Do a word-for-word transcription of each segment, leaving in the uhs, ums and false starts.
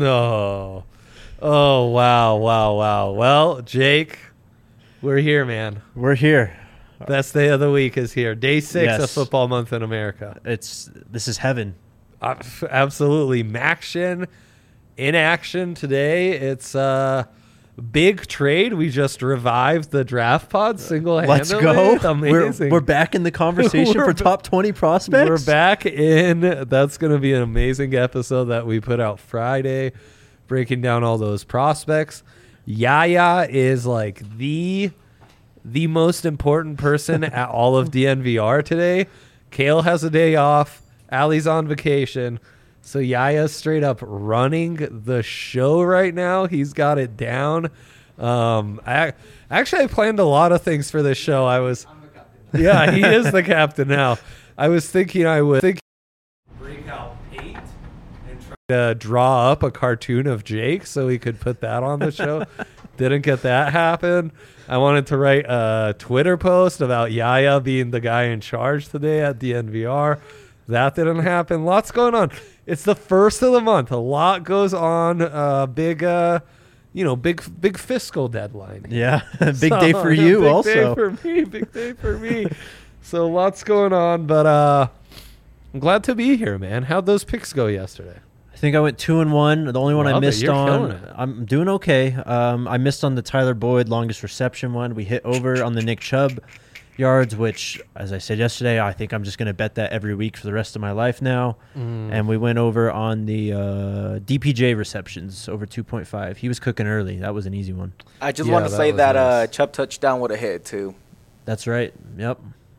No. Oh, wow, wow, wow. Well, Jake, we're here, man. We're here. Best day of the week is here. Day six Yes. of football month in America. It's this is heaven. Uh, absolutely. Maction in action today. It's a big trade. We just revived the draft pod single-handedly. Let's go. Amazing. We're, we're back in the conversation We're for ba- top twenty prospects. We're back in. That's going to be an amazing episode that we put out Friday, breaking down all those prospects. Yaya is like the the most important person at all of D N V R today. Kale has a day off. Allie's on vacation. So Yaya's straight up running the show right now. He's got it down. Um, I actually I planned a lot of things for this show. I was, yeah, he is the captain now. I was thinking I would think bring out paint and try to draw up a cartoon of Jake so we could put that on the show. Didn't get that happen. I wanted to write a Twitter post about Yaya being the guy in charge today at D N V R. That didn't happen. Lots going on. It's the first of the month. A lot goes on. Uh, big, uh, you know, big, big fiscal deadline. Yeah, big So, day for you big also. Big day for me. Big day for me. So lots going on, but uh, I'm glad to be here, man. How'd those picks go yesterday? I think I went two and one. The only one I Love it. missed You're killing on, it. I'm doing okay. Um, I missed on the Tyler Boyd longest reception one. We hit over on the Nick Chubb yards, which, as I said yesterday, I think I'm just going to bet that every week for the rest of my life now. Mm. And we went over on the uh, D P J receptions, over two point five. He was cooking early. That was an easy one. I just Yeah, want to that say was that nice. uh, Chubb touchdown would have hit too. That's right. Yep.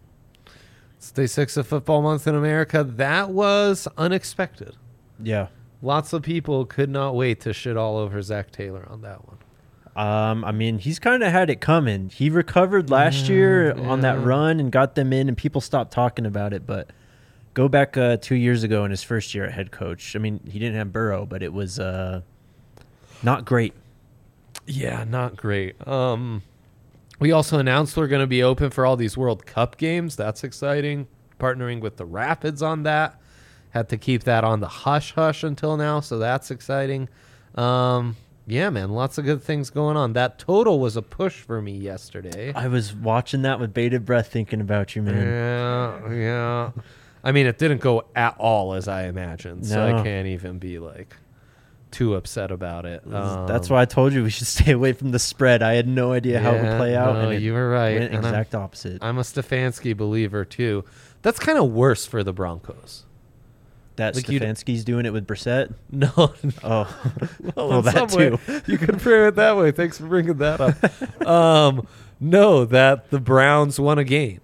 It's day six of football month in America. That was unexpected. Yeah. Lots of people could not wait to shit all over Zach Taylor on that one. Um, I mean, he's kind of had it coming. He recovered last Yeah, year on that yeah. run and got them in, and people stopped talking about it. But go back uh, two years ago in his first year at head coach. I mean, he didn't have Burrow, but it was uh, not great. Yeah, not great. Um, we also announced we're going to be open for all these World Cup games. That's exciting. Partnering with the Rapids on that. Had to keep that on the hush-hush until now, so that's exciting. Um, yeah, man, lots of good things going on. That total was a push for me yesterday. I was watching that with bated breath thinking about you, man. Yeah, yeah. I mean, it didn't go at all as I imagined, so No. I can't even be, like, too upset about it. Um, That's why I told you we should stay away from the spread. I had no idea how it would yeah, play out. no, and it you were right. went and I'm- exact opposite. I'm a Stefanski believer, too. That's kind of worse for the Broncos. that like you'd- Stefanski's doing it with Brissett. No. Oh, well, well, in that some way, too. You can frame it that way. Thanks for bringing that up. um, no, that the Browns won a game.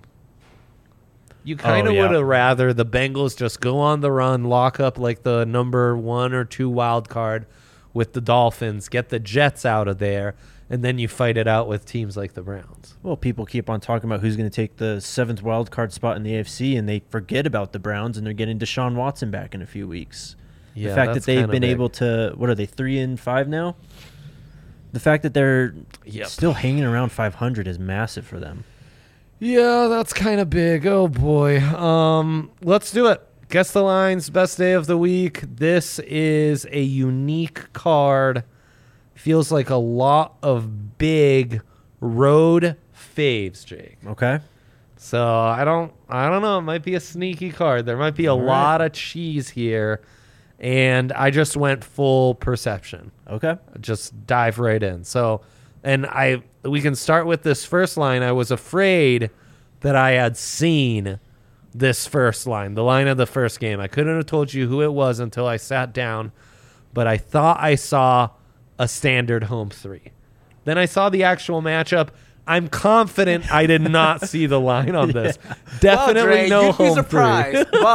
You kind of Oh, yeah. would have rather the Bengals just go on the run, lock up like the number one or two wild card with the Dolphins, get the Jets out of there, and then you fight it out with teams like the Browns. Well, people keep on talking about who's going to take the seventh wild card spot in the A F C, and they forget about the Browns, and they're getting Deshaun Watson back in a few weeks. Yeah, the fact that that's they've kinda been big. able to, what are they, three and five now? The fact that they're Yep. still hanging around five hundred is massive for them. Yeah, that's kind of big. Oh boy. Um, let's do it. Guess the lines. Best day of the week. This is a unique card. Feels like a lot of big road faves, Jake. Okay. So I don't, I don't know. It might be a sneaky card. There might be a All right. lot of cheese here, and I just went full perception. Okay. Just dive right in. So, and I we can start with this first line. I was afraid that I had seen this first line, the line of the first game. I couldn't have told you who it was until I sat down, but I thought I saw a standard home three. Then I saw the actual matchup. I'm confident I did not see the line on this. Definitely well, Dre, no you'd home be surprised, three.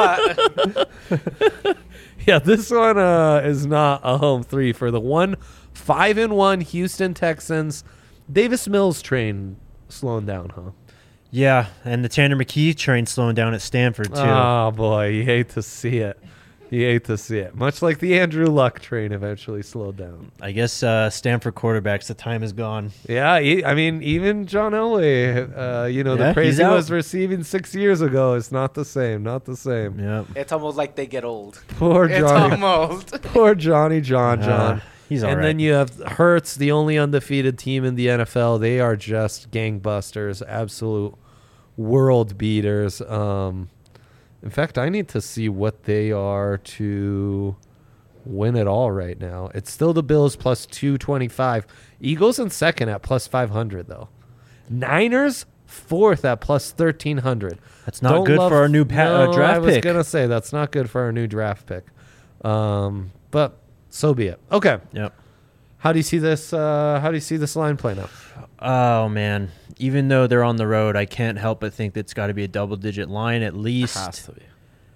but Yeah, this one uh, is not a home three for the one five and one Houston Texans. Davis Mills train slowing down, huh? Yeah, and the Tanner McKee train slowing down at Stanford, too. Oh boy, you hate to see it. You hate to see it. Much like the Andrew Luck train eventually slowed down. I guess uh, Stanford quarterbacks, the time is gone. Yeah, he, I mean, even John Elway, uh, you know, Yeah, the praise he's he out. was receiving six years ago is not the same. Not the same. Yep. It's almost like they get old. Poor It's Johnny. almost. Poor Johnny John Uh, John. he's all and right. then you have Hurts, the only undefeated team in the N F L. They are just gangbusters, absolute world beaters. Um, in fact, I need to see what they are to win it all right now. It's still the Bills plus two twenty-five. Eagles in second at plus five hundred, though. Niners fourth at plus thirteen hundred. That's not Don't good love- for our new pa- uh, No, draft I was pick. going to say that's not good for our new draft pick. Um, but so be it. Okay. Yep. How do you see this? Uh, how do you see this line playing out? Oh, man. Even though they're on the road, I can't help but think that's got to be a double-digit line at least. be.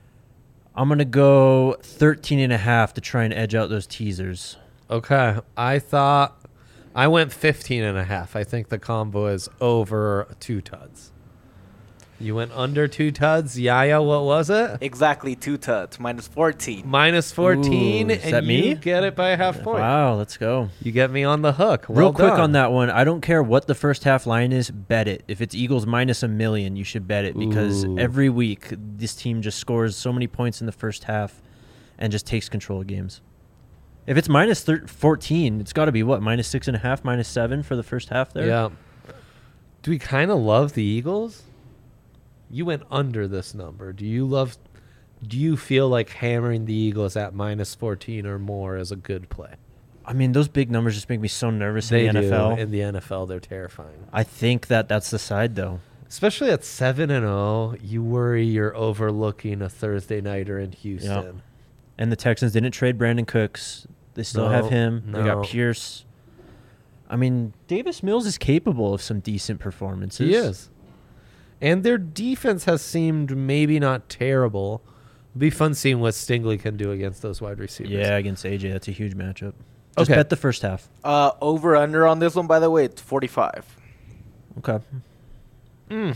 I'm going to go thirteen and a half to try and edge out those teasers. Okay. I thought I went fifteen and a half. I think the combo is over two tuds. You went under two tuds. Yaya, what was it? Exactly two tuds, minus fourteen. Minus fourteen, Ooh, is and that me? you get it by a half point. Wow, let's go. You get me on the hook. Real Well quick done. on that one, I don't care what the first half line is, bet it. If it's Eagles minus a million, you should bet it because Ooh. every week this team just scores so many points in the first half and just takes control of games. If it's minus thir- fourteen, it's got to be what, minus six and a half, minus seven for the first half there? Yeah. Do we kind of love the Eagles? You went under this number. Do you love? Do you feel like hammering the Eagles at minus fourteen or more is a good play? I mean, those big numbers just make me so nervous They in the do. N F L. In the N F L, they're terrifying. I think that that's the side, though. Especially at seven and zero, you worry you're overlooking a Thursday nighter in Houston. And the Texans didn't trade Brandon Cooks. They still No, have him. They no. got Pierce. I mean, Davis Mills is capable of some decent performances. He is. And their defense has seemed maybe not terrible. It'll be fun seeing what Stingley can do against those wide receivers. Yeah, against A J, that's a huge matchup. Just Okay. bet the first half. Uh, over under on this one, by the way, it's forty-five. Okay. Mm.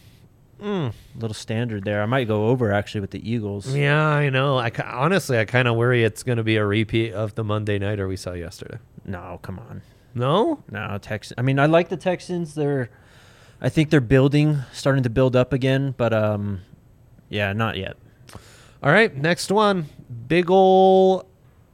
Mm. Little standard there. I might go over actually with the Eagles. Yeah, I know. I ki- honestly, I kind of worry it's going to be a repeat of the Monday nighter we saw yesterday. No, come on. No? No, Tex. I mean, I like the Texans. They're, I think they're building, starting to build up again. But um, yeah, not yet. All right, next one. Big ol'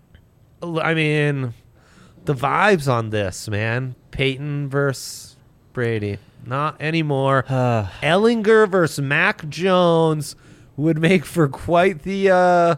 I mean, the vibes on this, man. Peyton versus Brady. Not anymore. Uh, Ellinger versus Mac Jones would make for quite the uh,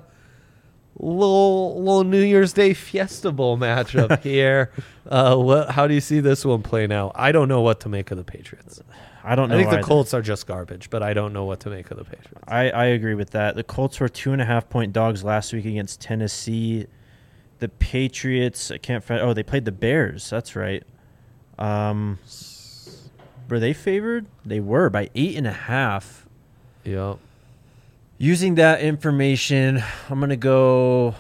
little little New Year's Day Fiesta Bowl matchup here. Uh, what? How do you see this one playing out? I don't know what to make of the Patriots. I don't know. I think the either. Colts are just garbage, but I don't know what to make of the Patriots. I, I agree with that. The Colts were two and a half point dogs last week against Tennessee. The Patriots, I can't find. Oh, they played the Bears. That's right. Um, were they favored? They were by eight and a half. Yep. Using that information, I'm gonna go.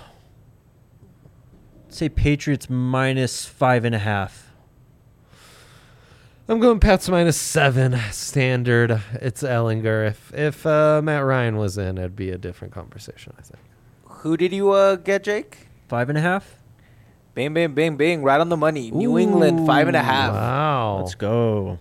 Say Patriots minus five and a half. I'm going Pats minus seven standard. It's Ellinger. If if uh, Matt Ryan was in, it'd be a different conversation, I think. Who did you uh, get, Jake? Five and a half. Bing, bing, bing, bing. Right on the money. New England, five and a half. Wow. Let's go.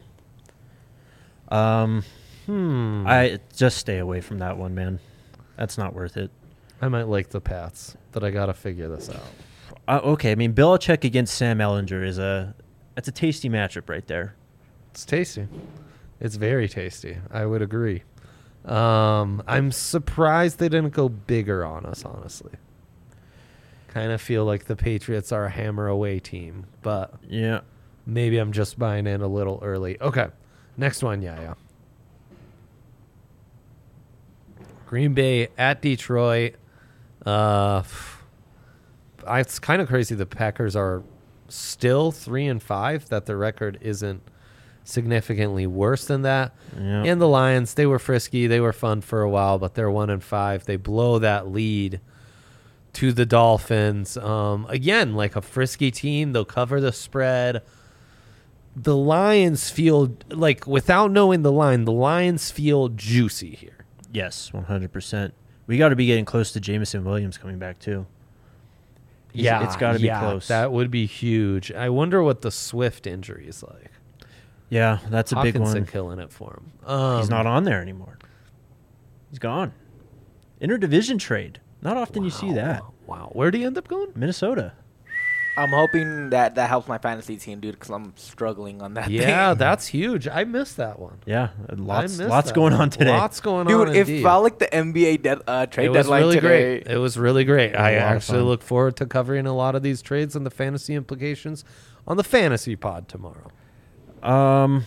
Um, Hmm. I just stay away from that one, man. That's not worth it. I might like the Pats, but I gotta figure this out. Uh, okay, I mean Belichick against Sam Ellinger is a that's a tasty matchup right there. It's tasty. It's very tasty. I would agree. Um, I'm surprised they didn't go bigger on us, honestly. Kind of feel like the Patriots are a hammer away team, but Yeah. maybe I'm just buying in a little early. Okay, next one, yeah, yeah. Green Bay at Detroit. Uh, I- it's kind of crazy. The Packers are still three and five. That the record isn't significantly worse than that. Yeah. And the Lions, they were frisky. They were fun for a while, but they're one and five. They blow that lead to the Dolphins. Um, again, like a frisky team, they'll cover the spread. The Lions feel like, without knowing the line, the Lions feel juicy here. Yes, one hundred percent. We got to be getting close to Jameson Williams coming back too. He's- Yeah, it's got to be yeah, close. That would be huge. I wonder what the Swift injury is like. yeah, that's a big Hawkinson one. killing it for him. Um, He's not on there anymore. He's gone. Interdivision trade. Not often you see wow, that. Wow, where'd he end up going? Minnesota. I'm hoping that that helps my fantasy team, dude, because I'm struggling on that. Yeah, thing. that's huge. I missed that one. Yeah, I lots missed lots that going one. on today. Lots going dude. on. It indeed. felt like the N B A dead, uh, trade It was deadline really today. great. It was really great. I A lot of actually fun. look forward to covering a lot of these trades and the fantasy implications on the fantasy pod tomorrow. Um,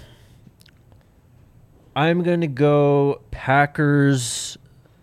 I'm gonna go Packers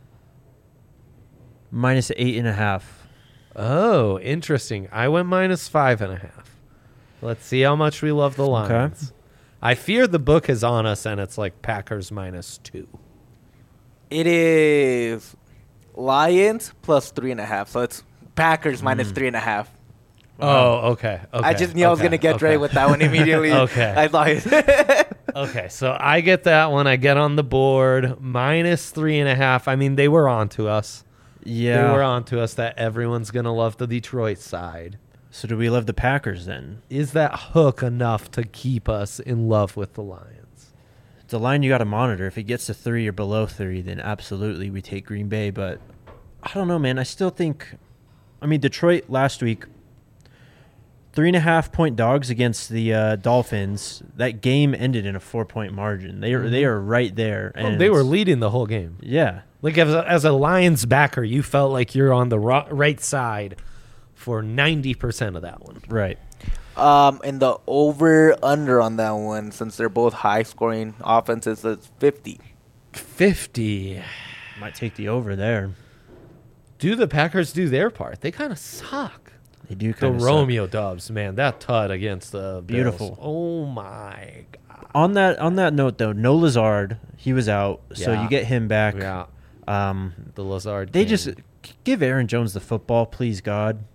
minus eight and a half. Oh, interesting. I went minus five and a half. Let's see how much we love the Okay. Lions. I fear the book is on us and it's like Packers minus two. It is Lions plus three and a half, so it's Packers minus three and a half. Oh, okay. okay. I just knew I was okay, gonna get okay. Dre with that one immediately. Okay. I thought. it- Okay, so I get that one. I get on the board minus three and a half. I mean, they were on to us. Yeah. They were on to us that everyone's going to love the Detroit side. So do we love the Packers then? Is that hook enough to keep us in love with the Lions? It's a line you got to monitor. If it gets to three or below three, then absolutely we take Green Bay. But I don't know, man. I still think. I mean, Detroit last week, three and a half point dogs against the uh, Dolphins. That game ended in a four point margin. They are they are right there. Well, And they were it's- leading the whole game. Yeah. Like, as a, as a Lions backer, you felt like you're on the ro- right side for ninety percent of that one. Right. Um, and the over under on that one, since they're both high scoring offenses, is fifty. fifty. Might take the over there. Do the Packers do their part? They kind of suck. They do The kind of Romeo Dubs, man, that tut against the Bills. Beautiful. Oh my god. On that on that note though, no Lazard, he was out, so Yeah. you get him back. Yeah, Um, the Lazard. they King. just give Aaron Jones the football, please God.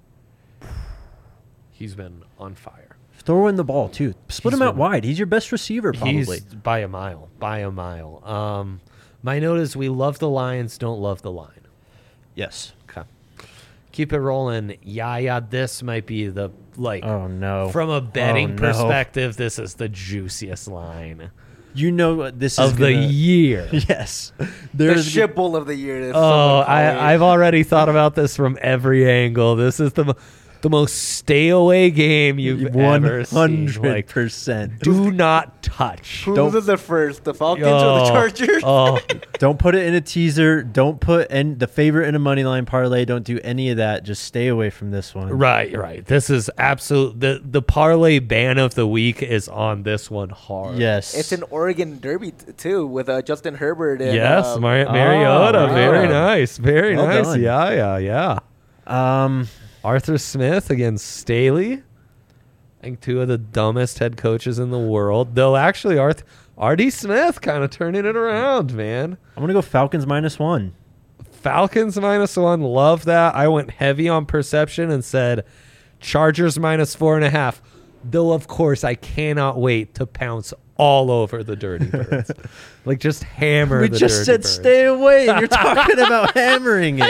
he's been on fire. Throw in the ball too. Split He's him out been- wide. He's your best receiver, probably. He's by a mile, by a mile. Um, my note is we love the Lions, don't love the line. Yes. Okay, keep it rolling. Yeah, yeah. This might be the like. Oh no. From a betting Oh, no. perspective, this is the juiciest line You know what this is of the gonna- year. Yes. The There's shit bowl of the year. as Oh, someone called it. I, I've already thought about this from every angle. This is the mo- the most stay away game you've one ever seen. hundred Like, percent. do not touch. Who don't- loses it first, the Falcons or Oh, the Chargers? Oh, Don't put it in a teaser. Don't put in the favorite in a money line parlay. Don't do any of that. Just stay away from this one. right, right. This is absolute. The the parlay ban of the week is on this one hard. Yes. It's an Oregon Derby t- too, with uh, Justin Herbert. And, Yes, uh, Mar- Mariota. wow. Very nice. Very Well nice. done. Yeah, yeah, yeah. Um. Arthur Smith against Staley. I think two of the dumbest head coaches in the world. Though actually, Arth R D Smith kind of turning it around, man. I'm gonna go Falcons minus one. Falcons minus one. Love that. I went heavy on perception and said Chargers minus four and a half. Though, of course, I cannot wait to pounce all over the Dirty Birds. Like, just hammer We the just Dirty said Birds. stay away, and you're talking about hammering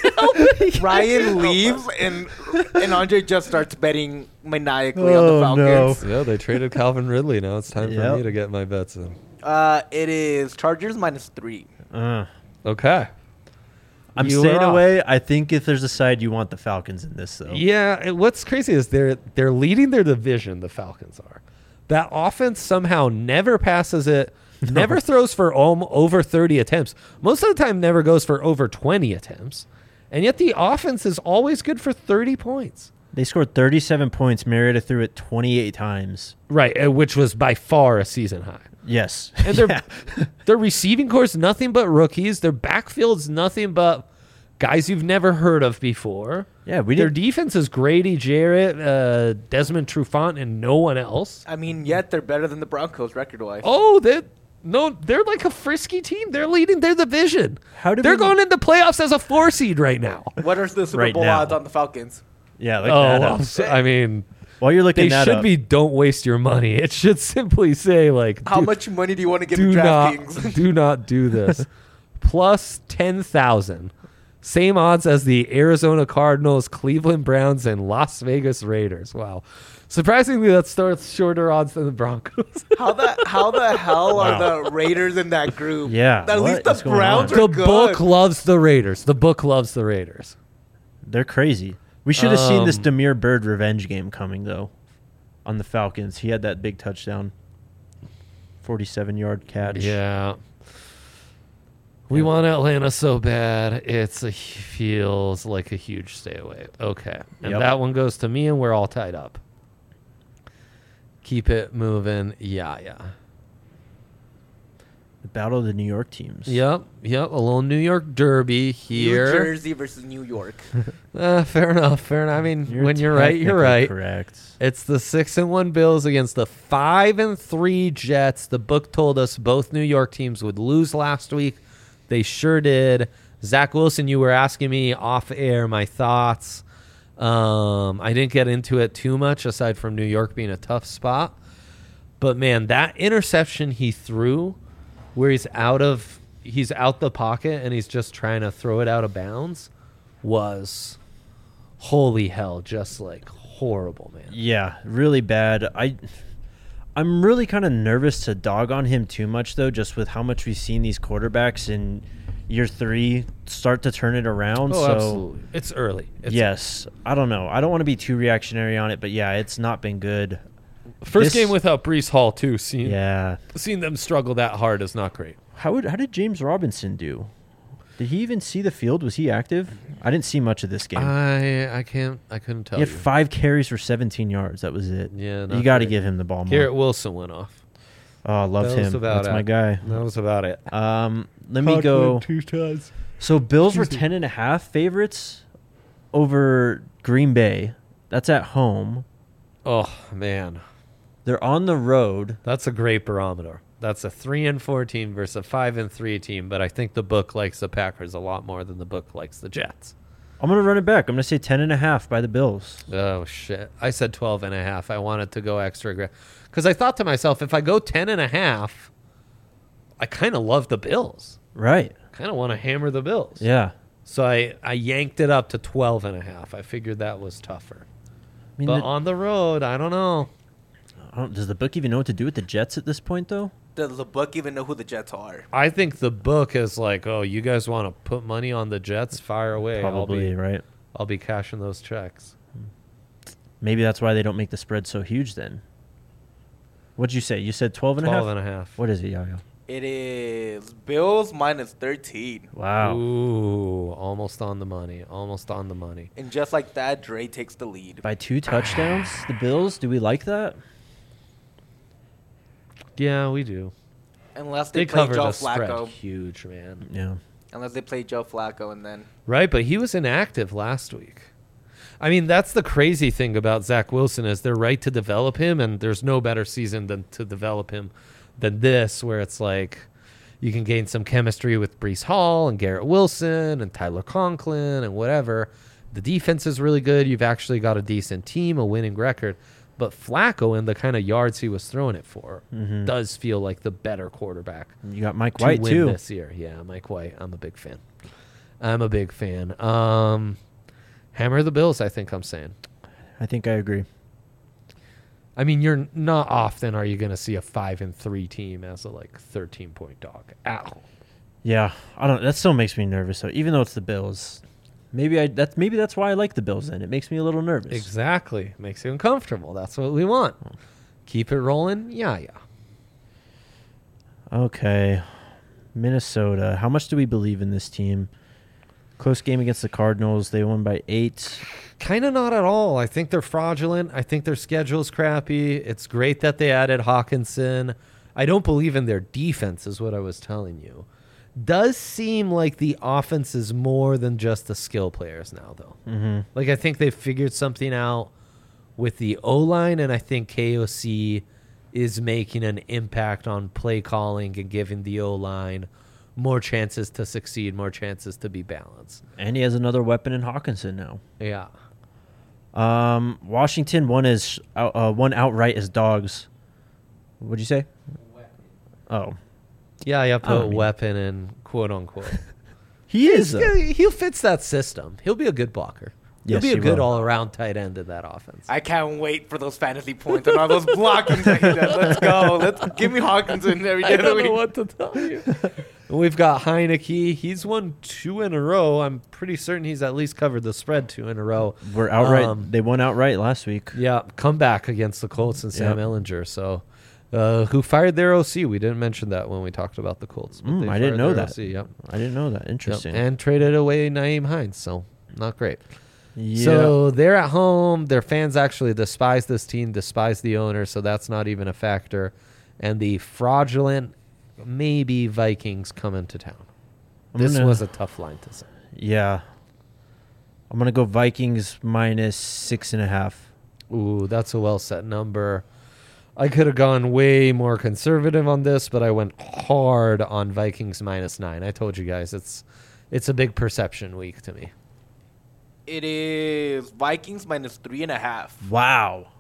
it. Ryan leaves and and Andre just starts betting maniacally on the Oh, Falcons. Yeah, they traded Calvin Ridley. Now it's time for Yep. me to get my bets in. Uh, it is Chargers minus three. Uh, Okay. I'm You staying are off. away. I think if there's a side, you want the Falcons in this, though. Yeah, and what's crazy is they're they're leading their division. The Falcons are. That offense somehow never passes it, never throws for om- over thirty attempts. Most of the time, never goes for over twenty attempts, and yet the offense is always good for thirty points. They scored thirty-seven points. Mariota threw it twenty-eight times. Right, uh, which was by far a season high. Yes. And their Yeah. their receiving core's nothing but rookies. Their backfield's nothing but guys you've never heard of before. Yeah, we Their did. defense is Grady Jarrett, uh, Desmond Trufant, and no one else. I mean, yet they're better than the Broncos record wise. Oh, they no, they're like a frisky team. They're leading their division. How did they're we- going into playoffs as a four seed right now. What are the Super Right Bowl now. odds on the Falcons? Yeah, look Oh, that I'm up. so- I mean, While you're looking they that should up, be. Don't waste your money. It should simply say like, How do, much money do you want to give do to not DraftKings? do not do this. Plus ten thousand Same odds as the Arizona Cardinals, Cleveland Browns, and Las Vegas Raiders. Wow. Surprisingly, that starts shorter odds than the Broncos. How the how the hell Wow. are the Raiders in that group? Yeah, At what least the is going Browns on? are The good. book loves the Raiders. The book loves the Raiders. They're crazy. We should have seen this Um, Demir Bird revenge game coming, though, on the Falcons. He had that big touchdown. forty-seven-yard catch. Yeah. We want Atlanta so bad. It's a feels like a huge stay away. Okay. And Yep. that one goes to me, and we're all tied up. Keep it moving. Yeah, yeah. The battle of the New York teams. Yep, yep. A little New York Derby New here. Jersey versus New York. Uh, fair enough, fair enough. I mean, when you're right, you're technically right. Correct. It's the six and one Bills against the five and three Jets. The book told us both New York teams would lose last week. They sure did. Zach Wilson, you were asking me off air my thoughts. Um, I didn't get into it too much aside from New York being a tough spot. But man, that interception he threw where he's out of he's out the pocket and he's just trying to throw it out of bounds was holy hell, just like horrible, man. Yeah, really bad. I, I'm really kind of nervous to dog on him too much, though, just with how much we've seen these quarterbacks in year three start to turn it around. Oh, so absolutely. It's early. It's yes, I don't know. I don't want to be too reactionary on it, but yeah, it's not been good. First This- game without Brees Hall too. Seeing Yeah. seeing them struggle that hard is not great. How would how did James Robinson do? Did he even see the field? Was he active? I didn't see much of this game. I I can't I couldn't tell he had you. five carries for seventeen yards. That was it. Yeah, you not got to great. give him the ball more. Garrett Wilson went off. Oh, I love That was him. about That's it. my guy. That was about it. Um, let me go. two times. So Bills were ten and a half favorites over Green Bay. That's at home. Oh man, They're on the road. that's a great barometer. That's a three and four team versus a five and three team. But I think the book likes the Packers a lot more than the book likes the Jets. I'm going to run it back. I'm going to say ten and a half by the Bills. Oh shit! I said twelve and a half. I wanted to go extra aggressive because I thought to myself, if I go ten and a half, I kind of love the Bills. Right. Kind of want to hammer the Bills. Yeah. So I, I yanked it up to twelve and a half. I figured that was tougher. I mean, But the- on the road, I don't know. I don't, does the book even know what to do with the Jets at this point, though? Does the book even know who the Jets are? I think the book is like, oh, you guys want to put money on the Jets? Fire away. Probably, I'll be, right? I'll be cashing those checks. Maybe that's why they don't make the spread so huge then. What'd you say? You said twelve and a half? twelve and a half. What is it, Yo-Yo? It is Bills minus thirteen. Wow. Ooh, almost on the money. Almost on the money. And just like that, Dre takes the lead. By two touchdowns, the Bills? Do we like that? Yeah, we do. Unless they, They play covered Joe the spread Flacco. huge, man. Yeah. Unless they play Joe Flacco and then Right, but he was inactive last week. I mean, that's the crazy thing about Zach Wilson is they're right to develop him, and there's no better season than to develop him than this, where it's like you can gain some chemistry with Brees Hall and Garrett Wilson and Tyler Conklin and whatever. The defense is really good. You've actually got a decent team, a winning record. But Flacco and the kind of yards he was throwing it for Mhm. does feel like the better quarterback You got Mike to White, win too. this year. Yeah, Mike White. I'm a big fan. I'm a big fan. Um, hammer the Bills, I think I'm saying. I think I agree. I mean, you're not often are you going to see a five and three team as a like thirteen point dog at home. Yeah, I don't. That still makes me nervous. So even though it's the Bills, maybe I that's maybe that's why I like the Bills. Then it makes me a little nervous. Exactly, makes you uncomfortable. That's what we want. Keep it rolling. Yeah, yeah. Okay, Minnesota. How much do we believe in this team? Close game against the Cardinals. They won by eight. Kind of not at all. I think they're fraudulent. I think their schedule's crappy. It's great that they added Hawkinson. I don't believe in their defense, is what I was telling you. Does seem like the offense is more than just the skill players now, though. Mm-hmm. Like, I think they've figured something out with the O-line, and I think K O C is making an impact on play calling and giving the O-line more chances to succeed, more chances to be balanced. And he has another weapon in Hawkinson now. Yeah. Um, Washington won as out, uh, one outright as dogs. What'd you say? Oh, Yeah, yeah, put I don't mean- weapon in quote unquote. He is. He's gonna- He fits that system. He'll be a good blocker. Yes, He'll be a he good will. all-around tight end in that offense. I can't wait for those fantasy points and all those blocking. Let's go. Let's give me Hawkinson every day I of the don't know week. what to tell you. We've got Heineke. He's won two in a row. I'm pretty certain he's at least covered the spread two in a row. We're outright. Um, they won outright last week. Yeah, comeback against the Colts and Sam Yep. Ellinger. So, uh, who fired their O C? We didn't mention that when we talked about the Colts. but Mm, they I didn't fired know their that. O C, yep. I didn't know that. Yep. Interesting. And traded away Naeem Hines. So, not great. yeah. So they're at home. Their fans actually despise this team, despise the owner, so that's not even a factor. And the fraudulent, maybe Vikings come into town. I'm This gonna- was a tough line to say. yeah. I'm gonna go Vikings minus six and a half. Ooh, that's a well set number. I could have gone way more conservative on this, but I went hard on Vikings minus nine. I told you guys it's it's a big perception week to me. It is Vikings minus three and a half. Wow.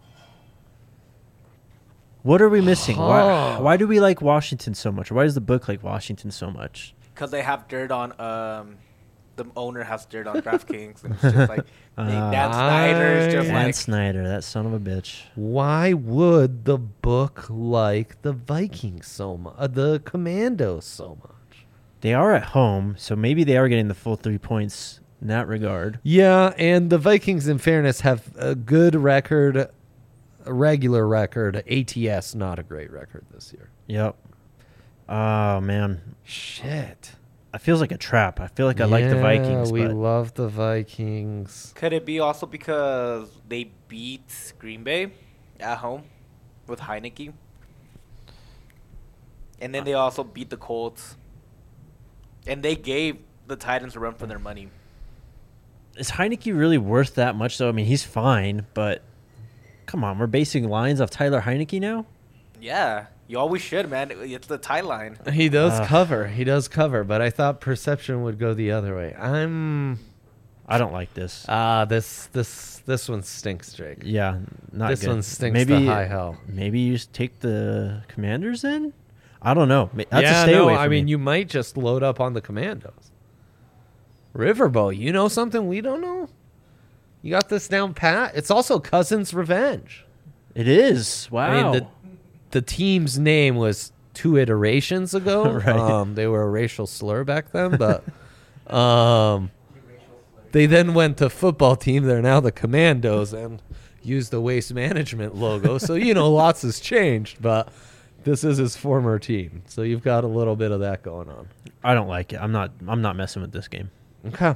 What are we missing? Why, Oh. why do we like Washington so much? Why does the book like Washington so much? Because they have dirt on, um, the owner has dirt on DraftKings. And it's just like, they, Dan Ah. Snyder is just Dan like, Snyder, that son of a bitch. Why would the book like the Vikings so much, uh, the Commandos so much? They are at home, so maybe they are getting the full three points in that regard. Yeah, and the Vikings, in fairness, have a good record, a regular record. A T S, not a great record this year. Yep. Oh man, Shit. it feels like a trap. I feel like I like the Yeah, Vikings, we but love the Vikings. could it be also because they beat Green Bay at home with Heineke? And then they also beat the Colts. And they gave the Titans a run for their money. is Heineke really worth that much? Though I mean, he's fine, but come on, we're basing lines off Tyler Heineke now. Yeah, you always should, man. It's the tie line. He does Ugh. cover. He does cover, but I thought perception would go the other way. I'm I don't like this. ah this this this one stinks, Drake. Yeah, not this good. one stinks maybe, to high hell. Maybe you just take the Commanders in. I don't know. Ma- That's yeah, a stay no, away from I mean me. you might just load up on the Commandos. Riverboat, you know something we don't know? You got this down pat? It's also Cousins' revenge. It is. Wow. I mean, the the team's name was two iterations ago. Right. Um, they were a racial slur back then, but um, they then went to football team. They're now the Commandos and use the Waste Management logo. So, you know, lots has changed, but this is his former team. So you've got a little bit of that going on. I don't like it. I'm not. I'm not messing with this game. Okay.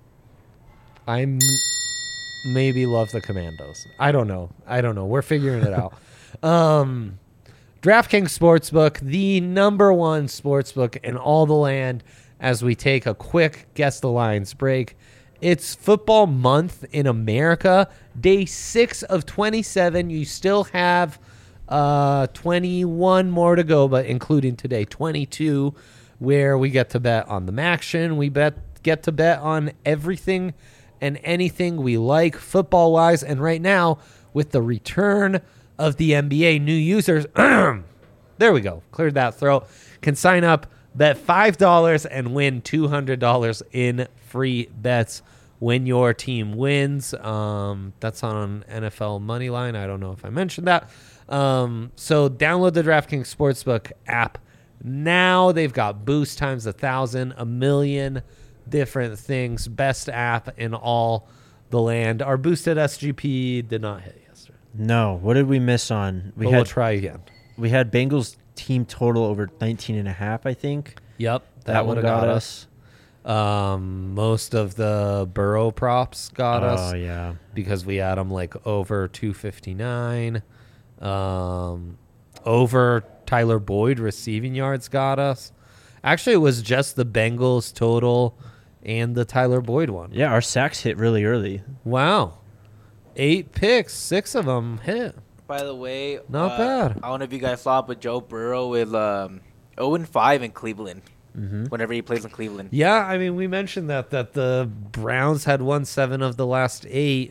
I m- maybe love the Commandos. I don't know. I don't know. We're figuring it out. Um, DraftKings Sportsbook, the number one sportsbook in all the land, as we take a quick Guess the Lines break. It's football month in America. Day six of twenty-seven. You still have uh, twenty-one more to go, but including today, twenty-two, where we get to bet on the Maction. We bet get to bet on everything and anything we like football-wise. And right now, with the return of the N B A, new users, there we go, cleared that throat, can sign up, bet five dollars, and win two hundred dollars in free bets when your team wins. Um, that's on N F L Moneyline. I don't know if I mentioned that. Um, so download the DraftKings Sportsbook app now. They've got boost times a thousand, a million different things. Best app in all the land. Our boosted S G P did not hit yesterday. No. What did we miss on? We but had we'll try again. we had Bengals team total over nineteen and a half, I think. Yep, that, That, would one have got, got us. Um, most of the Burrow props got Oh us yeah. because we had them like over two fifty-nine. Um, over Tyler Boyd receiving yards got us. Actually, it was just the Bengals total and the Tyler Boyd one. Yeah, our sacks hit really early. Wow. Eight picks, six of them hit. By the way, Not uh, bad. I don't know if you guys saw it, but Joe Burrow is um, oh and five in Cleveland Mm-hmm. whenever he plays in Cleveland. Yeah, I mean, we mentioned that, that the Browns had won seven of the last eight.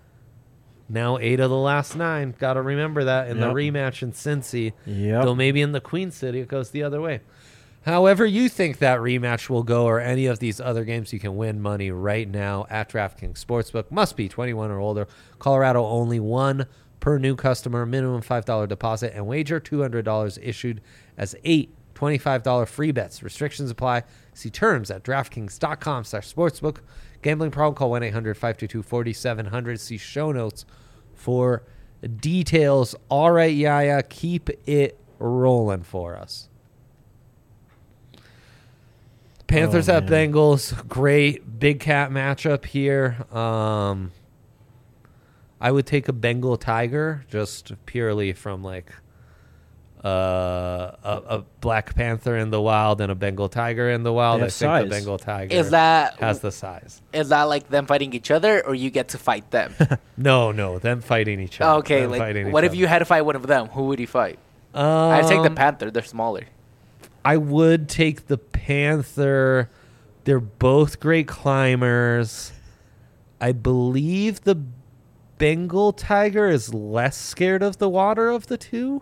Now eight of the last nine. Got to remember that in Yep. the rematch in Cincy. Yep. Though maybe in the Queen City it goes the other way. However you think that rematch will go or any of these other games, you can win money right now at DraftKings Sportsbook. Must be twenty-one or older. Colorado only one per new customer, minimum five dollars deposit, and wager two hundred dollars issued as eight twenty-five dollars free bets. Restrictions apply. See terms at DraftKings.com slash sportsbook. Gambling problem, call one eight hundred five two two four seven zero zero. See show notes for details. All right, Yaya, keep it rolling for us. Panthers Oh, at man. Bengals. Great big cat matchup here. Um, I would take a Bengal Tiger just purely from like uh, a, a Black Panther in the wild and a Bengal Tiger in the wild. They I have think size. the Bengal Tiger Is that has the size. is that like them fighting each other, or you get to fight them? No, no, them fighting each other. Okay, Them like fighting what each if you had to fight one of them? Who would you fight? other. I'd take the Um, Panther. They're smaller. I would take the Panther. They're both great climbers. I believe the Bengal Tiger is less scared of the water of the two.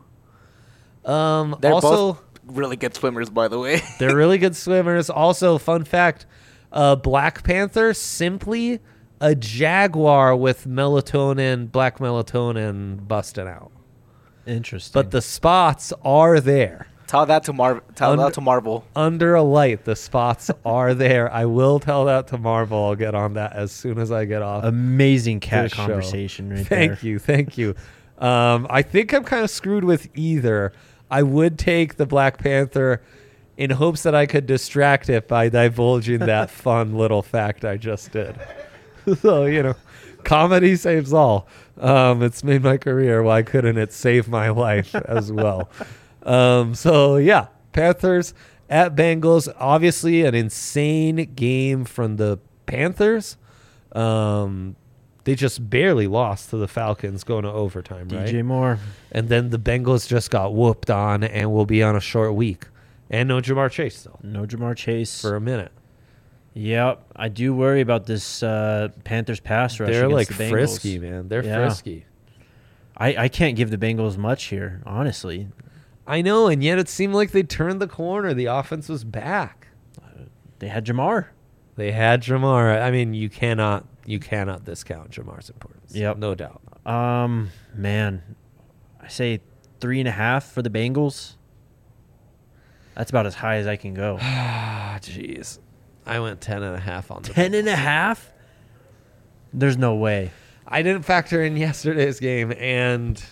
Um, They're also, both really good swimmers, by the way. they're really good swimmers. Also, fun fact, uh, Black Panther, simply a jaguar with melatonin, black melatonin busting out. Interesting. But the spots are there. Tell that to Mar. Tell Under- that to Marvel. Under a light, the spots are there. I will tell that to Marvel. I'll get on that as soon as I get off. Amazing cat this show. conversation right Thank there. you, thank you. Um, I think I'm kind of screwed with either. I would take the Black Panther in hopes that I could distract it by divulging that fun little fact I just did. So, you know, comedy saves all. Um, it's made my career. Why couldn't it save my life as well? Um, so, yeah, Panthers at Bengals. Obviously, an insane game from the Panthers. Um, they just barely lost to the Falcons going to overtime, D right? J Moore. And then the Bengals just got whooped on and will be on a short week. And no Jamar Chase, though, No Jamar Chase. for a minute. Yep. I do worry about this uh, Panthers pass rush. They're like against the Bengals. frisky, man. They're Yeah. frisky. I, I can't give the Bengals much here, honestly. I know, and yet it seemed like they turned the corner. The offense was back. They had Jamar. They had Jamar. I mean, you cannot you cannot discount Jamar's importance. Yep. No doubt. Um, man, I say three and a half for the Bengals. That's about as high as I can go. Ah, jeez. I went ten and a half on the Ten and a Bengals. half? There's no way. I didn't factor in yesterday's game, and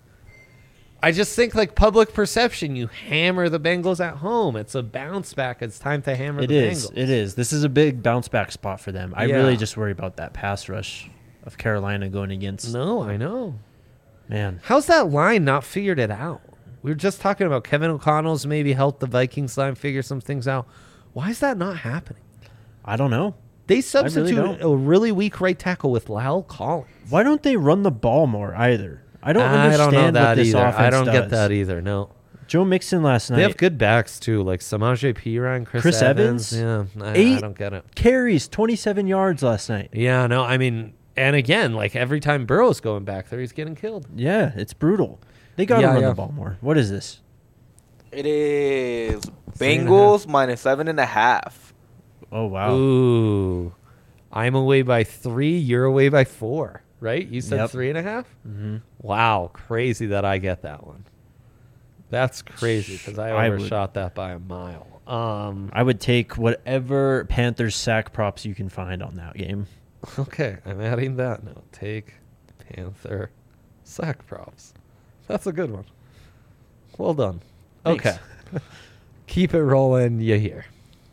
I just think like public perception, you hammer the Bengals at home. It's a bounce back. It's time to hammer It the is. Bengals. It is. This is a big bounce back spot for them. I Yeah. really just worry about that pass rush of Carolina going against. No, I know. Man, How's that line not figured it out? We were just talking about Kevin O'Connell's maybe helped the Vikings line figure some things out. Why is that not happening? I don't know. They substitute don't. a really weak right tackle with Lyle Collins. Why don't they run the ball more either? I don't I understand don't know that what this either. offense I don't does. get that either. No, Joe Mixon last night. they have good backs too, like Samaje Perine, Chris, Chris Evans. Evans? Yeah, I, Eight I don't get it. carries, twenty-seven yards last night. Yeah, no, I mean, and again, like every time Burrow's going back there, he's getting killed. Yeah, it's brutal. They got to Yeah, run yeah. the ball more. What is this? It is Three and a Bengals minus seven and a half. Oh, wow. Ooh, I'm away by three. You're away by four. Right? You said Yep. three and a half. Mm-hmm. Wow, crazy that I get that one. That's crazy because I I would- overshot that by a mile. Um, I would take whatever Panthers sack props you can find on that game. okay, I'm adding that now. Take Panther sack props. That's a good one. Well done. Thanks. Okay. Keep it rolling, you hear.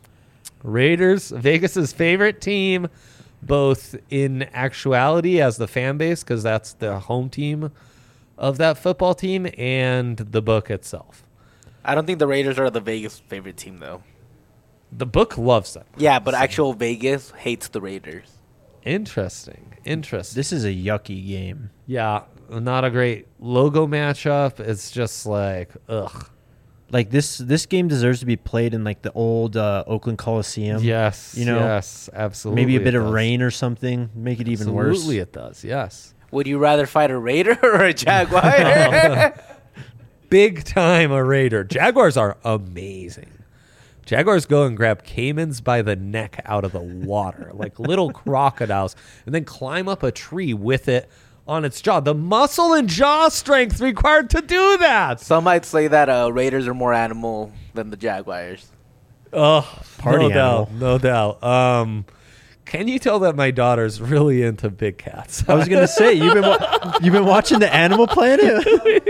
Raiders, Vegas's favorite team, both in actuality as the fan base, because that's the home team of that football team, and the book itself. I don't think the Raiders are the Vegas favorite team though. The book loves them. Yeah, but actual Vegas hates the Raiders. Interesting. Interesting. This is a yucky game. yeah, not a great logo matchup. It's just like, ugh. Like this this game deserves to be played in like the old uh, Oakland Coliseum. Yes. you know, yes, absolutely. Maybe a bit it of does. rain or something. Make it even Absolutely, worse. it does. Yes. Would you rather fight a Raider or a Jaguar? Big time a Raider. Jaguars are amazing. Jaguars go and grab caimans by the neck out of the water, like little crocodiles, and then climb up a tree with it on its jaw. The muscle and jaw strength required to do that. Some might say that uh, Raiders are more animal than the Jaguars. Oh, Party no animal. doubt, no doubt. Um, can you tell that my daughter's really into big cats? I was gonna say you've been wa- you've been watching the Animal Planet.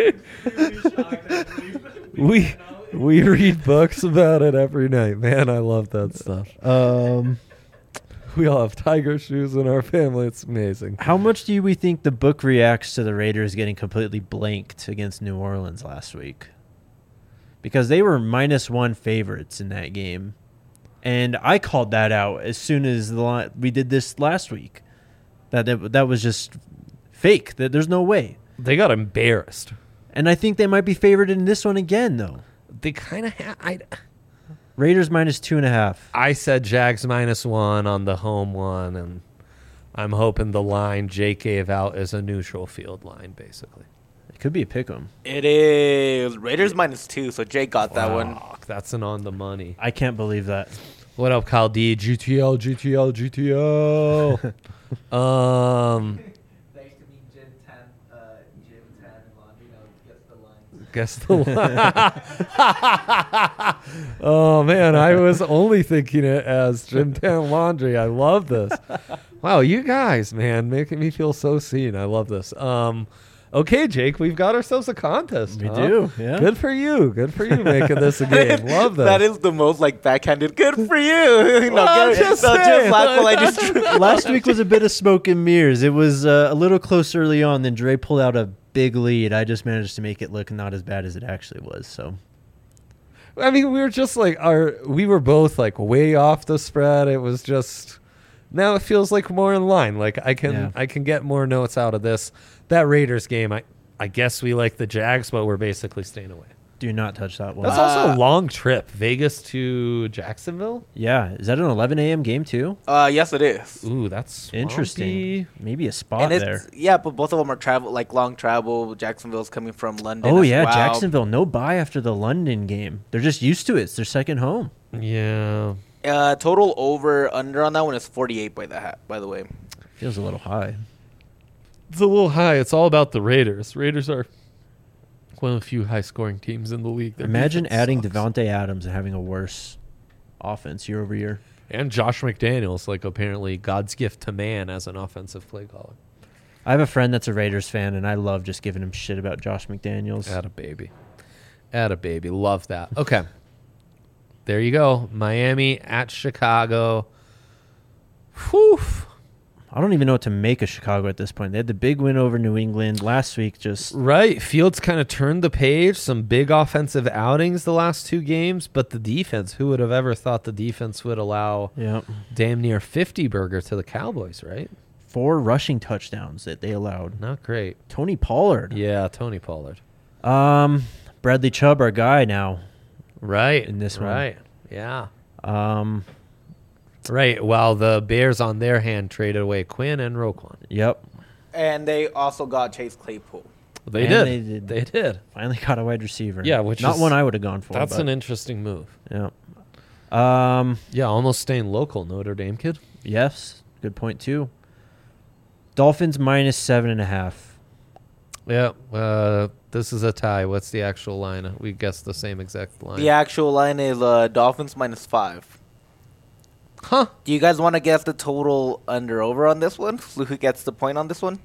we we read books about it every night. Man, I love that stuff. um, We all have tiger shoes in our family. It's amazing. how much do we think the book reacts to the Raiders getting completely blanked against New Orleans last week? Because they were minus one favorites in that game, and I called that out as soon as the li- we did this last week. That that, that was just fake. That there's no way. They got embarrassed. And I think they might be favored in this one again, though. They kind of had. I, Raiders minus two and a half. I said Jags minus one on the home one, and I'm hoping the line Jake gave out is a neutral field line, basically. It could be a pick 'em. It is Raiders minus two, so Jake got that one. Fuck, that's an on the money. I can't believe that. What up, Kyle D? G T L, G T L, G T L. um, Thanks to me, Jim ten, uh, Jim ten, Laundry gets the line. guess the line. Oh man, I was only thinking it as Jim Tan Laundry. I love this. Wow, you guys, man, making me feel so seen. I love this. Um, okay, Jake, we've got ourselves a contest. We huh? do, yeah. Good for you. Good for you making this a game. Love this. That is the most like backhanded. Good for you. no, Well, I'm good, just no, saying. just laugh while I just. Last week was a bit of smoke and mirrors. It was uh, a little close early on. Then Dre pulled out a big lead. I just managed to make it look not as bad as it actually was. So I mean, we were just like our. We were both like way off the spread. It was just. Now it feels like more in line. Like I can, Yeah. I can get more notes out of this. That Raiders game, I, I guess we like the Jags, but we're basically staying away. do not touch that one. That's Uh, also a long trip, Vegas to Jacksonville. Yeah, is that an eleven a.m. game too? Uh, yes, it is. Ooh, that's Interesting. swampy. Maybe a spot And it's there. yeah, but both of them are travel like long travel. Jacksonville's coming from London. Oh as yeah, well. Jacksonville no bye after the London game. They're just used to it. It's their second home. Yeah, Uh, total over under on that one is forty-eight by the ha- by the way. Feels a little high. it's a little high. It's all about the Raiders. Raiders are one of the few high-scoring teams in the league. Their Imagine defense adding sucks. Devontae Adams and having a worse offense year over year. And Josh McDaniels, like apparently God's gift to man as an offensive play caller. I have a friend that's a Raiders fan, and I love just giving him shit about Josh McDaniels. Atta baby. Atta baby. Love that. Okay. There you go. Miami at Chicago. Whew. I don't even know what to make of Chicago at this point. They had the big win over New England last week. Just Right. Fields kind of turned the page. Some big offensive outings the last two games, but the defense, who would have ever thought the defense would allow yeah, damn near fifty burger to the Cowboys, right? four rushing touchdowns that they allowed. Not great. Tony Pollard. Yeah, Tony Pollard. Um, Bradley Chubb, our guy now. Right. In this one. Right. Yeah. Um, Right. While the Bears on their hand traded away Quinn and Roquan. yep. And they also got Chase Claypool. They And did. they did. They did. Finally got a wide receiver. Yeah, which not is- one I would have gone for. That's but, an interesting move. yeah. Um, Yeah, almost staying local, Notre Dame kid. yes, good point too. Dolphins minus seven and a half. Yeah, uh, this is a tie. What's the actual line? We guessed the same exact line. The actual line is uh, Dolphins minus five. Huh. Do you guys want to guess the total under over on this one? So who gets the point on this one?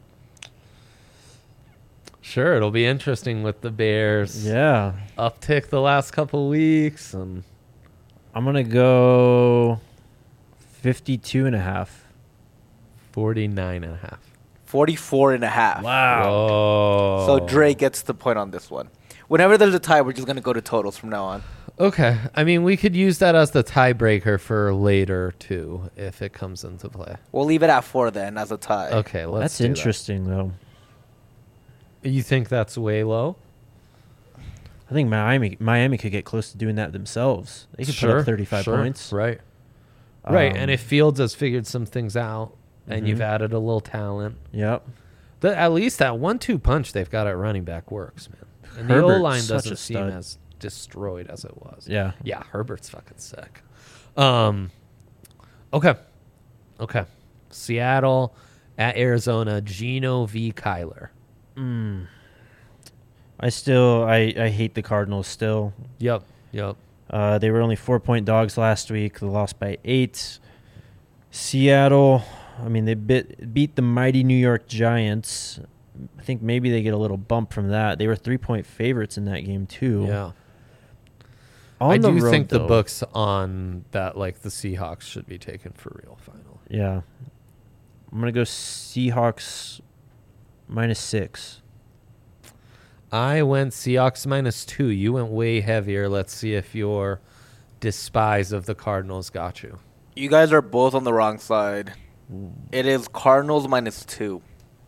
Sure, it'll be interesting with the Bears. Yeah, Uptick the last couple weeks. And I'm gonna go fifty-two and a half. forty-nine and a half. forty-four and a half. Whoa. So Dre gets the point on this one. Whenever there's a tie, we're just going to go to totals from now on. Okay. I mean, we could use that as the tiebreaker for later, too, if it comes into play. We'll leave it at four then as a tie. Okay, let's That's do that. interesting though. You think that's way low? I think Miami Miami could get close to doing that themselves. They could put Sure, up thirty-five sure. points. Right. Right. Um, And if Fields has figured some things out and Mhm. you've added a little talent, Yep. the, at least that one two punch they've got at running back works, man. And the Herbert's O line such doesn't a seem stud. as destroyed as it was. Yeah. Yeah, Herbert's fucking sick. Um, okay. Okay. Seattle at Arizona, Geno v. Kyler. Mm. I still, I, I hate the Cardinals still. Yep. Yep. Uh, they were only four-point dogs last week. They lost by eight. Seattle, I mean, they bit, beat the mighty New York Giants. I think maybe they get a little bump from that. They were three-point favorites in that game, too. Yeah. On I the do road, think the though- books on that, like, the Seahawks should be taken for real final. Yeah. I'm going to go Seahawks minus six. I went Seahawks minus two. You went way heavier. Let's see if your despise of the Cardinals got you. You guys are both on the wrong side. It is Cardinals minus two.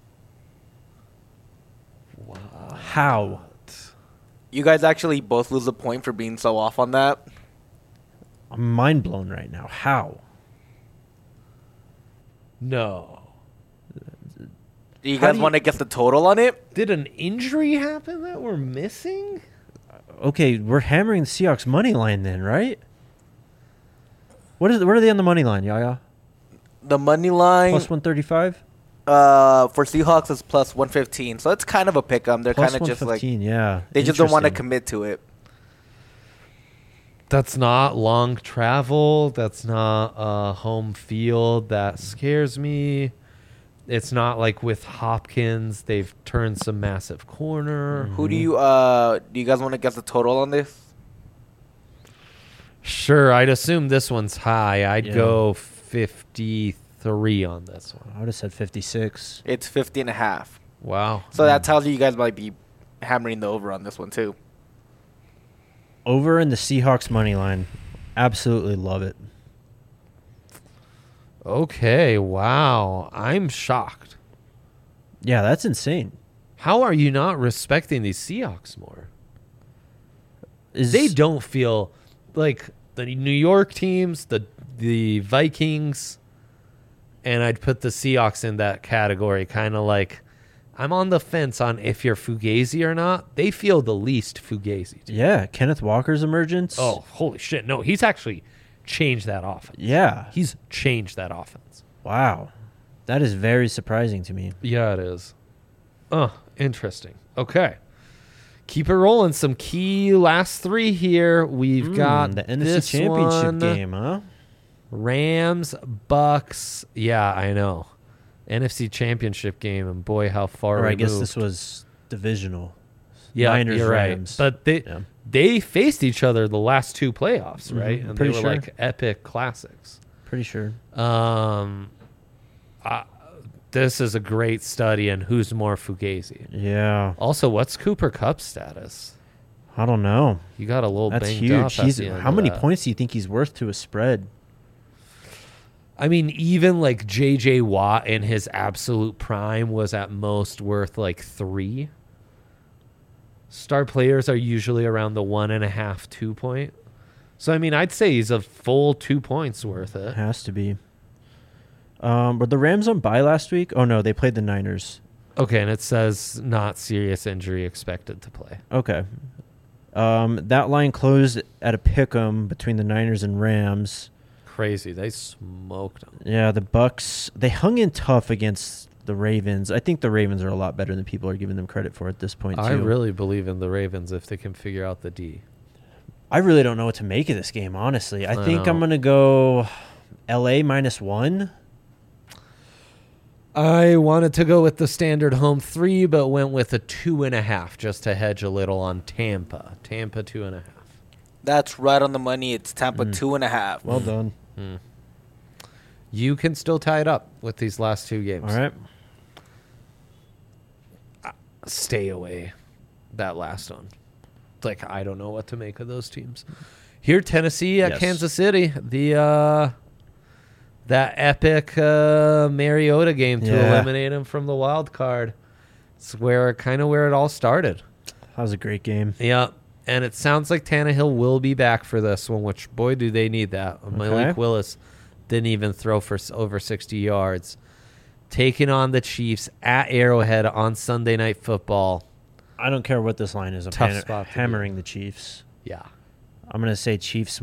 How? You guys actually both lose a point for being so off on that. I'm mind blown right now. How? No. Do you How guys do you- want to guess the total on it? Did an injury happen that we're missing? Okay, we're hammering the Seahawks money line then, right? What is? What are they on the money line, Yaya? The money line Plus one thirty-five. uh, for Seahawks is plus one fifteen. So it's kind of a pick 'em. They're Plus kind of one just like, fifteen. Yeah. they just don't want to Interesting. commit to it. That's not long travel. That's not a home field. That scares me. It's not like with Hopkins, they've turned some massive corner. Who do you uh do you guys want to guess the total on this? Sure, I'd assume this one's high. I'd Yeah. go fifty-three on this one. I would have said fifty-six. It's fifty and a half. Wow. So that tells you you guys might be hammering the over on this one too. Over in the Seahawks money line. Absolutely love it. Okay, wow. I'm shocked. Yeah, that's insane. How are you not respecting these Seahawks more? Is They don't feel like the New York teams, the the Vikings, and I'd put the Seahawks in that category. Kind of like I'm on the fence on if you're Fugazi or not. They feel the least Fugazi. to me. Yeah, Kenneth Walker's emergence. Oh, holy shit. No, he's actually changed that offense. Yeah. He's changed that offense. Wow. That is very surprising to me. Yeah, it is. Oh, interesting. Okay. Keep it rolling. Some key last three here. We've Mm, got the N F C this Championship one. game, huh? Rams, Bucks. Yeah, I know. N F C Championship game, and boy, how far Or I removed. guess this was divisional. yeah, Niners, you're right. Rams. But they Yeah. they faced each other the last two playoffs, Mhm, right? And pretty they were sure. like epic classics. Pretty sure. Um, uh, this is a great study in who's more Fugazi. Yeah. Also, what's Cooper Cup's status? I don't know. He got a little That's banged huge. up. at He's, the end how of many that. points do you think he's worth to a spread? I mean, even like J J Watt in his absolute prime was at most worth like three. Star players are usually around the one and a half, two point. So, I mean, I'd say he's a full two points worth it. Has to be. Um, were the Rams on bye last week? Oh, no, they played the Niners. Okay, and it says not serious injury expected to play. Okay. Um, that line closed at a pick'em between the Niners and Rams. Crazy. They smoked them. Yeah, the Bucks, they hung in tough against the Ravens. I think the Ravens are a lot better than people are giving them credit for at this point, too. I really believe in the Ravens if they can figure out the D. I really don't know what to make of this game, honestly. I, I think know. I'm going to go L A minus one. I wanted to go with the standard home three, but went with a two and a half just to hedge a little on Tampa. Tampa two and a half. That's right on the money. It's Tampa Mm. two and a half. Well done. Hmm. You can still tie it up with these last two games. All right. Stay away. That last one. It's like I don't know what to make of those teams. Here, Tennessee at Yes. Kansas City. The uh, that epic uh, Mariota game to Yeah. eliminate him from the wild card. It's where kind of where it all started. That was a great game. Yeah, and it sounds like Tannehill will be back for this one, which, boy, do they need that. Malik Willis didn't even throw for s- over sixty yards. Taking on the Chiefs at Arrowhead on Sunday Night Football. I don't care what this line is. I'm Tough han- spot to be hammering the Chiefs. Yeah. I'm going to say Chiefs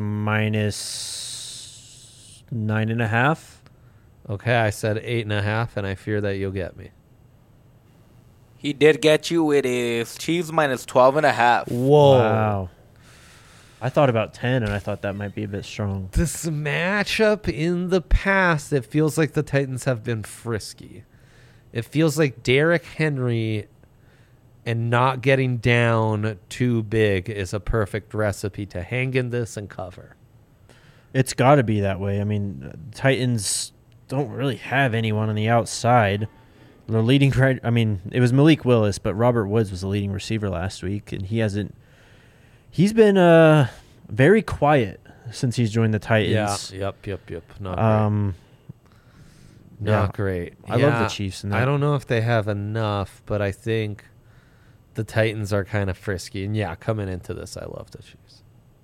minus nine and a half. Okay, I said eight and a half, and I fear that you'll get me. He did get you. It is Chiefs minus twelve and a half. Whoa. Wow. I thought about ten, and I thought that might be a bit strong. This matchup in the past, it feels like the Titans have been frisky. It feels like Derrick Henry and not getting down too big is a perfect recipe to hang in this and cover. It's got to be that way. I mean, Titans don't really have anyone on the outside. The leading, I mean, it was Malik Willis, but Robert Woods was the leading receiver last week, and he hasn't. He's been uh, very quiet since he's joined the Titans. Yeah. Yep. Yep. Yep. Not Um, great. Not yeah. great. I love Yeah, the Chiefs in that. I don't know if they have enough, but I think the Titans are kind of frisky. And yeah, coming into this, I love the Chiefs.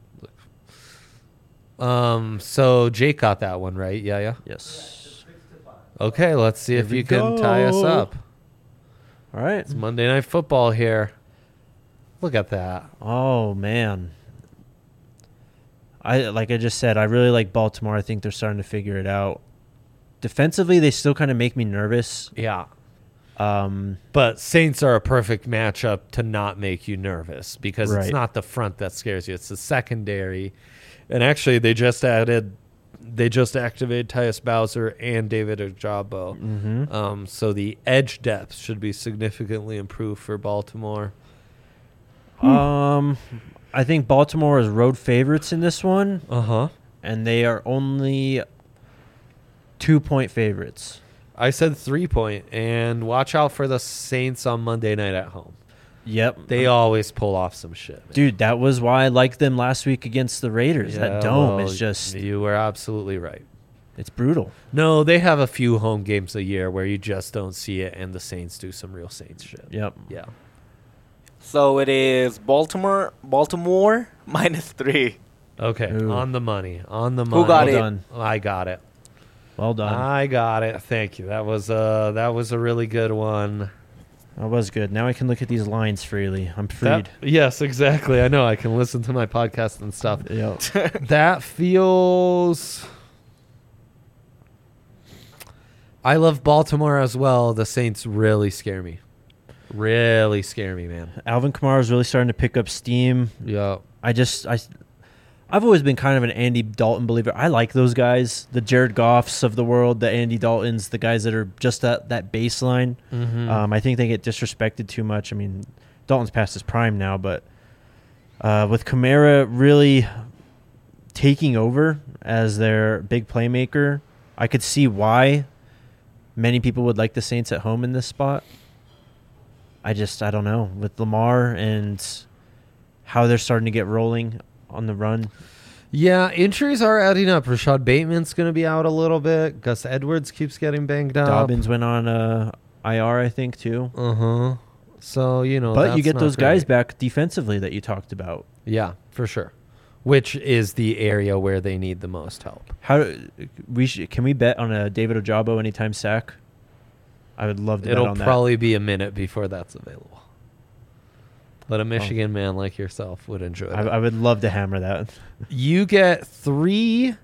Um. So Jake got that one right. Yeah. Yeah. Yes. Okay. Let's see Here if we you can tie us go. up. All right. It's Monday Night Football here. Look at that. Oh man. I like I just said, I really like Baltimore. I think they're starting to figure it out. Defensively, they still kind of make me nervous. Yeah. Um, But Saints are a perfect matchup to not make you nervous because Right. it's not the front that scares you; it's the secondary. And actually, they just added, they just activated Tyus Bowser and David Ojabo. mhm. Um, so the edge depth should be significantly improved for Baltimore. Um, I think Baltimore is road favorites in this one, Uh huh. and they are only two point favorites. I said three point, and watch out for the Saints on Monday night at home. Yep. They always pull off some shit, man. Dude, that was why I liked them last week against the Raiders. Yeah, that dome well, is just, You were absolutely right. it's brutal. No, they have a few home games a year where you just don't see it, and the Saints do some real Saints shit. Yep. Yeah. So it is Baltimore, Baltimore minus three. Okay. Ooh. On the money. On the money. Who got Well it? done. I got it. Well done. I got it. Thank you. That was uh that was a really good one. That was good. Now I can look at these lines freely. I'm freed. That- yes, exactly. I know. I can listen to my podcast and stuff. Yep. That feels. I love Baltimore as well. The Saints really scare me. Really scare me, man. Alvin Kamara is really starting to pick up steam. Yeah. I just I, I've always been kind of an Andy Dalton believer. I like those guys, the Jared Goffs of the world, the Andy Daltons, the guys that are just at that baseline. Mm-hmm. Um, I think they get disrespected too much. I mean, Dalton's past his prime now, but uh, with Kamara really taking over as their big playmaker, I could see why many people would like the Saints at home in this spot. I just, I don't know. With Lamar and how they're starting to get rolling on the run. Yeah, injuries are adding up. Rashad Bateman's going to be out a little bit. Gus Edwards keeps getting banged up. Dobbins went on uh, I R, I think, too. Uh-huh. So, you know, but that's you get not those guys great. back defensively that you talked about. Yeah, for sure. Which is the area where they need the most help. How we should, can we bet on a David Ojabo anytime sack? I would love to It'll bet on probably be a minute before that's available. But a Michigan man like yourself would enjoy that. that. I, I would love to hammer that. You get three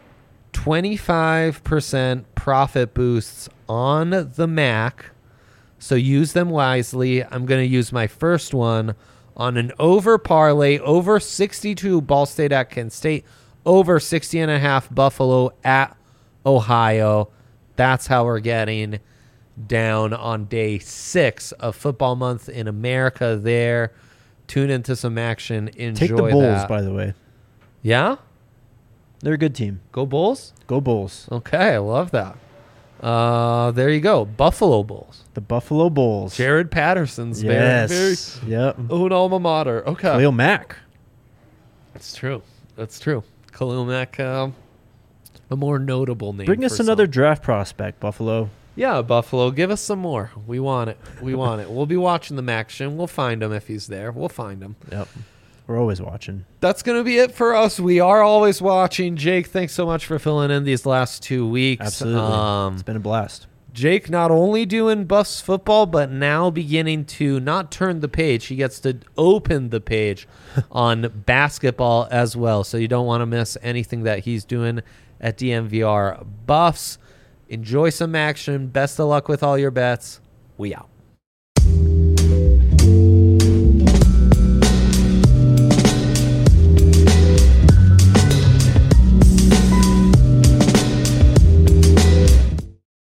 twenty-five percent profit boosts on the Mac. So use them wisely. I'm going to use my first one on an over parlay, over sixty-two Ball State at Kent State, over sixty and a half Buffalo at Ohio. That's how we're getting down on day six of football month in America there. Tune into some action. Enjoy Take the Bulls, that. by the way. Yeah? They're a good team. Go Bulls? Go Bulls. Okay, I love that. Uh, there you go. Buffalo Bulls. The Buffalo Bulls. Jared Patterson's yes. very, very Yep. own alma mater. Okay. Khalil Mack. That's true. That's true. Khalil Mack, um, a more notable name. Bring us for another some. draft prospect, Buffalo. Yeah, Buffalo. Give us some more. We want it. We want it. We'll be watching the action. We'll find him if he's there. We'll find him. Yep. We're always watching. That's going to be it for us. We are always watching. Jake, thanks so much for filling in these last two weeks. Absolutely. Um, It's been a blast. Jake not only doing Buffs football, but now beginning to not turn the page. He gets to open the page on basketball as well. So you don't want to miss anything that he's doing at D M V R Buffs. Enjoy some action. Best of luck with all your bets. We out.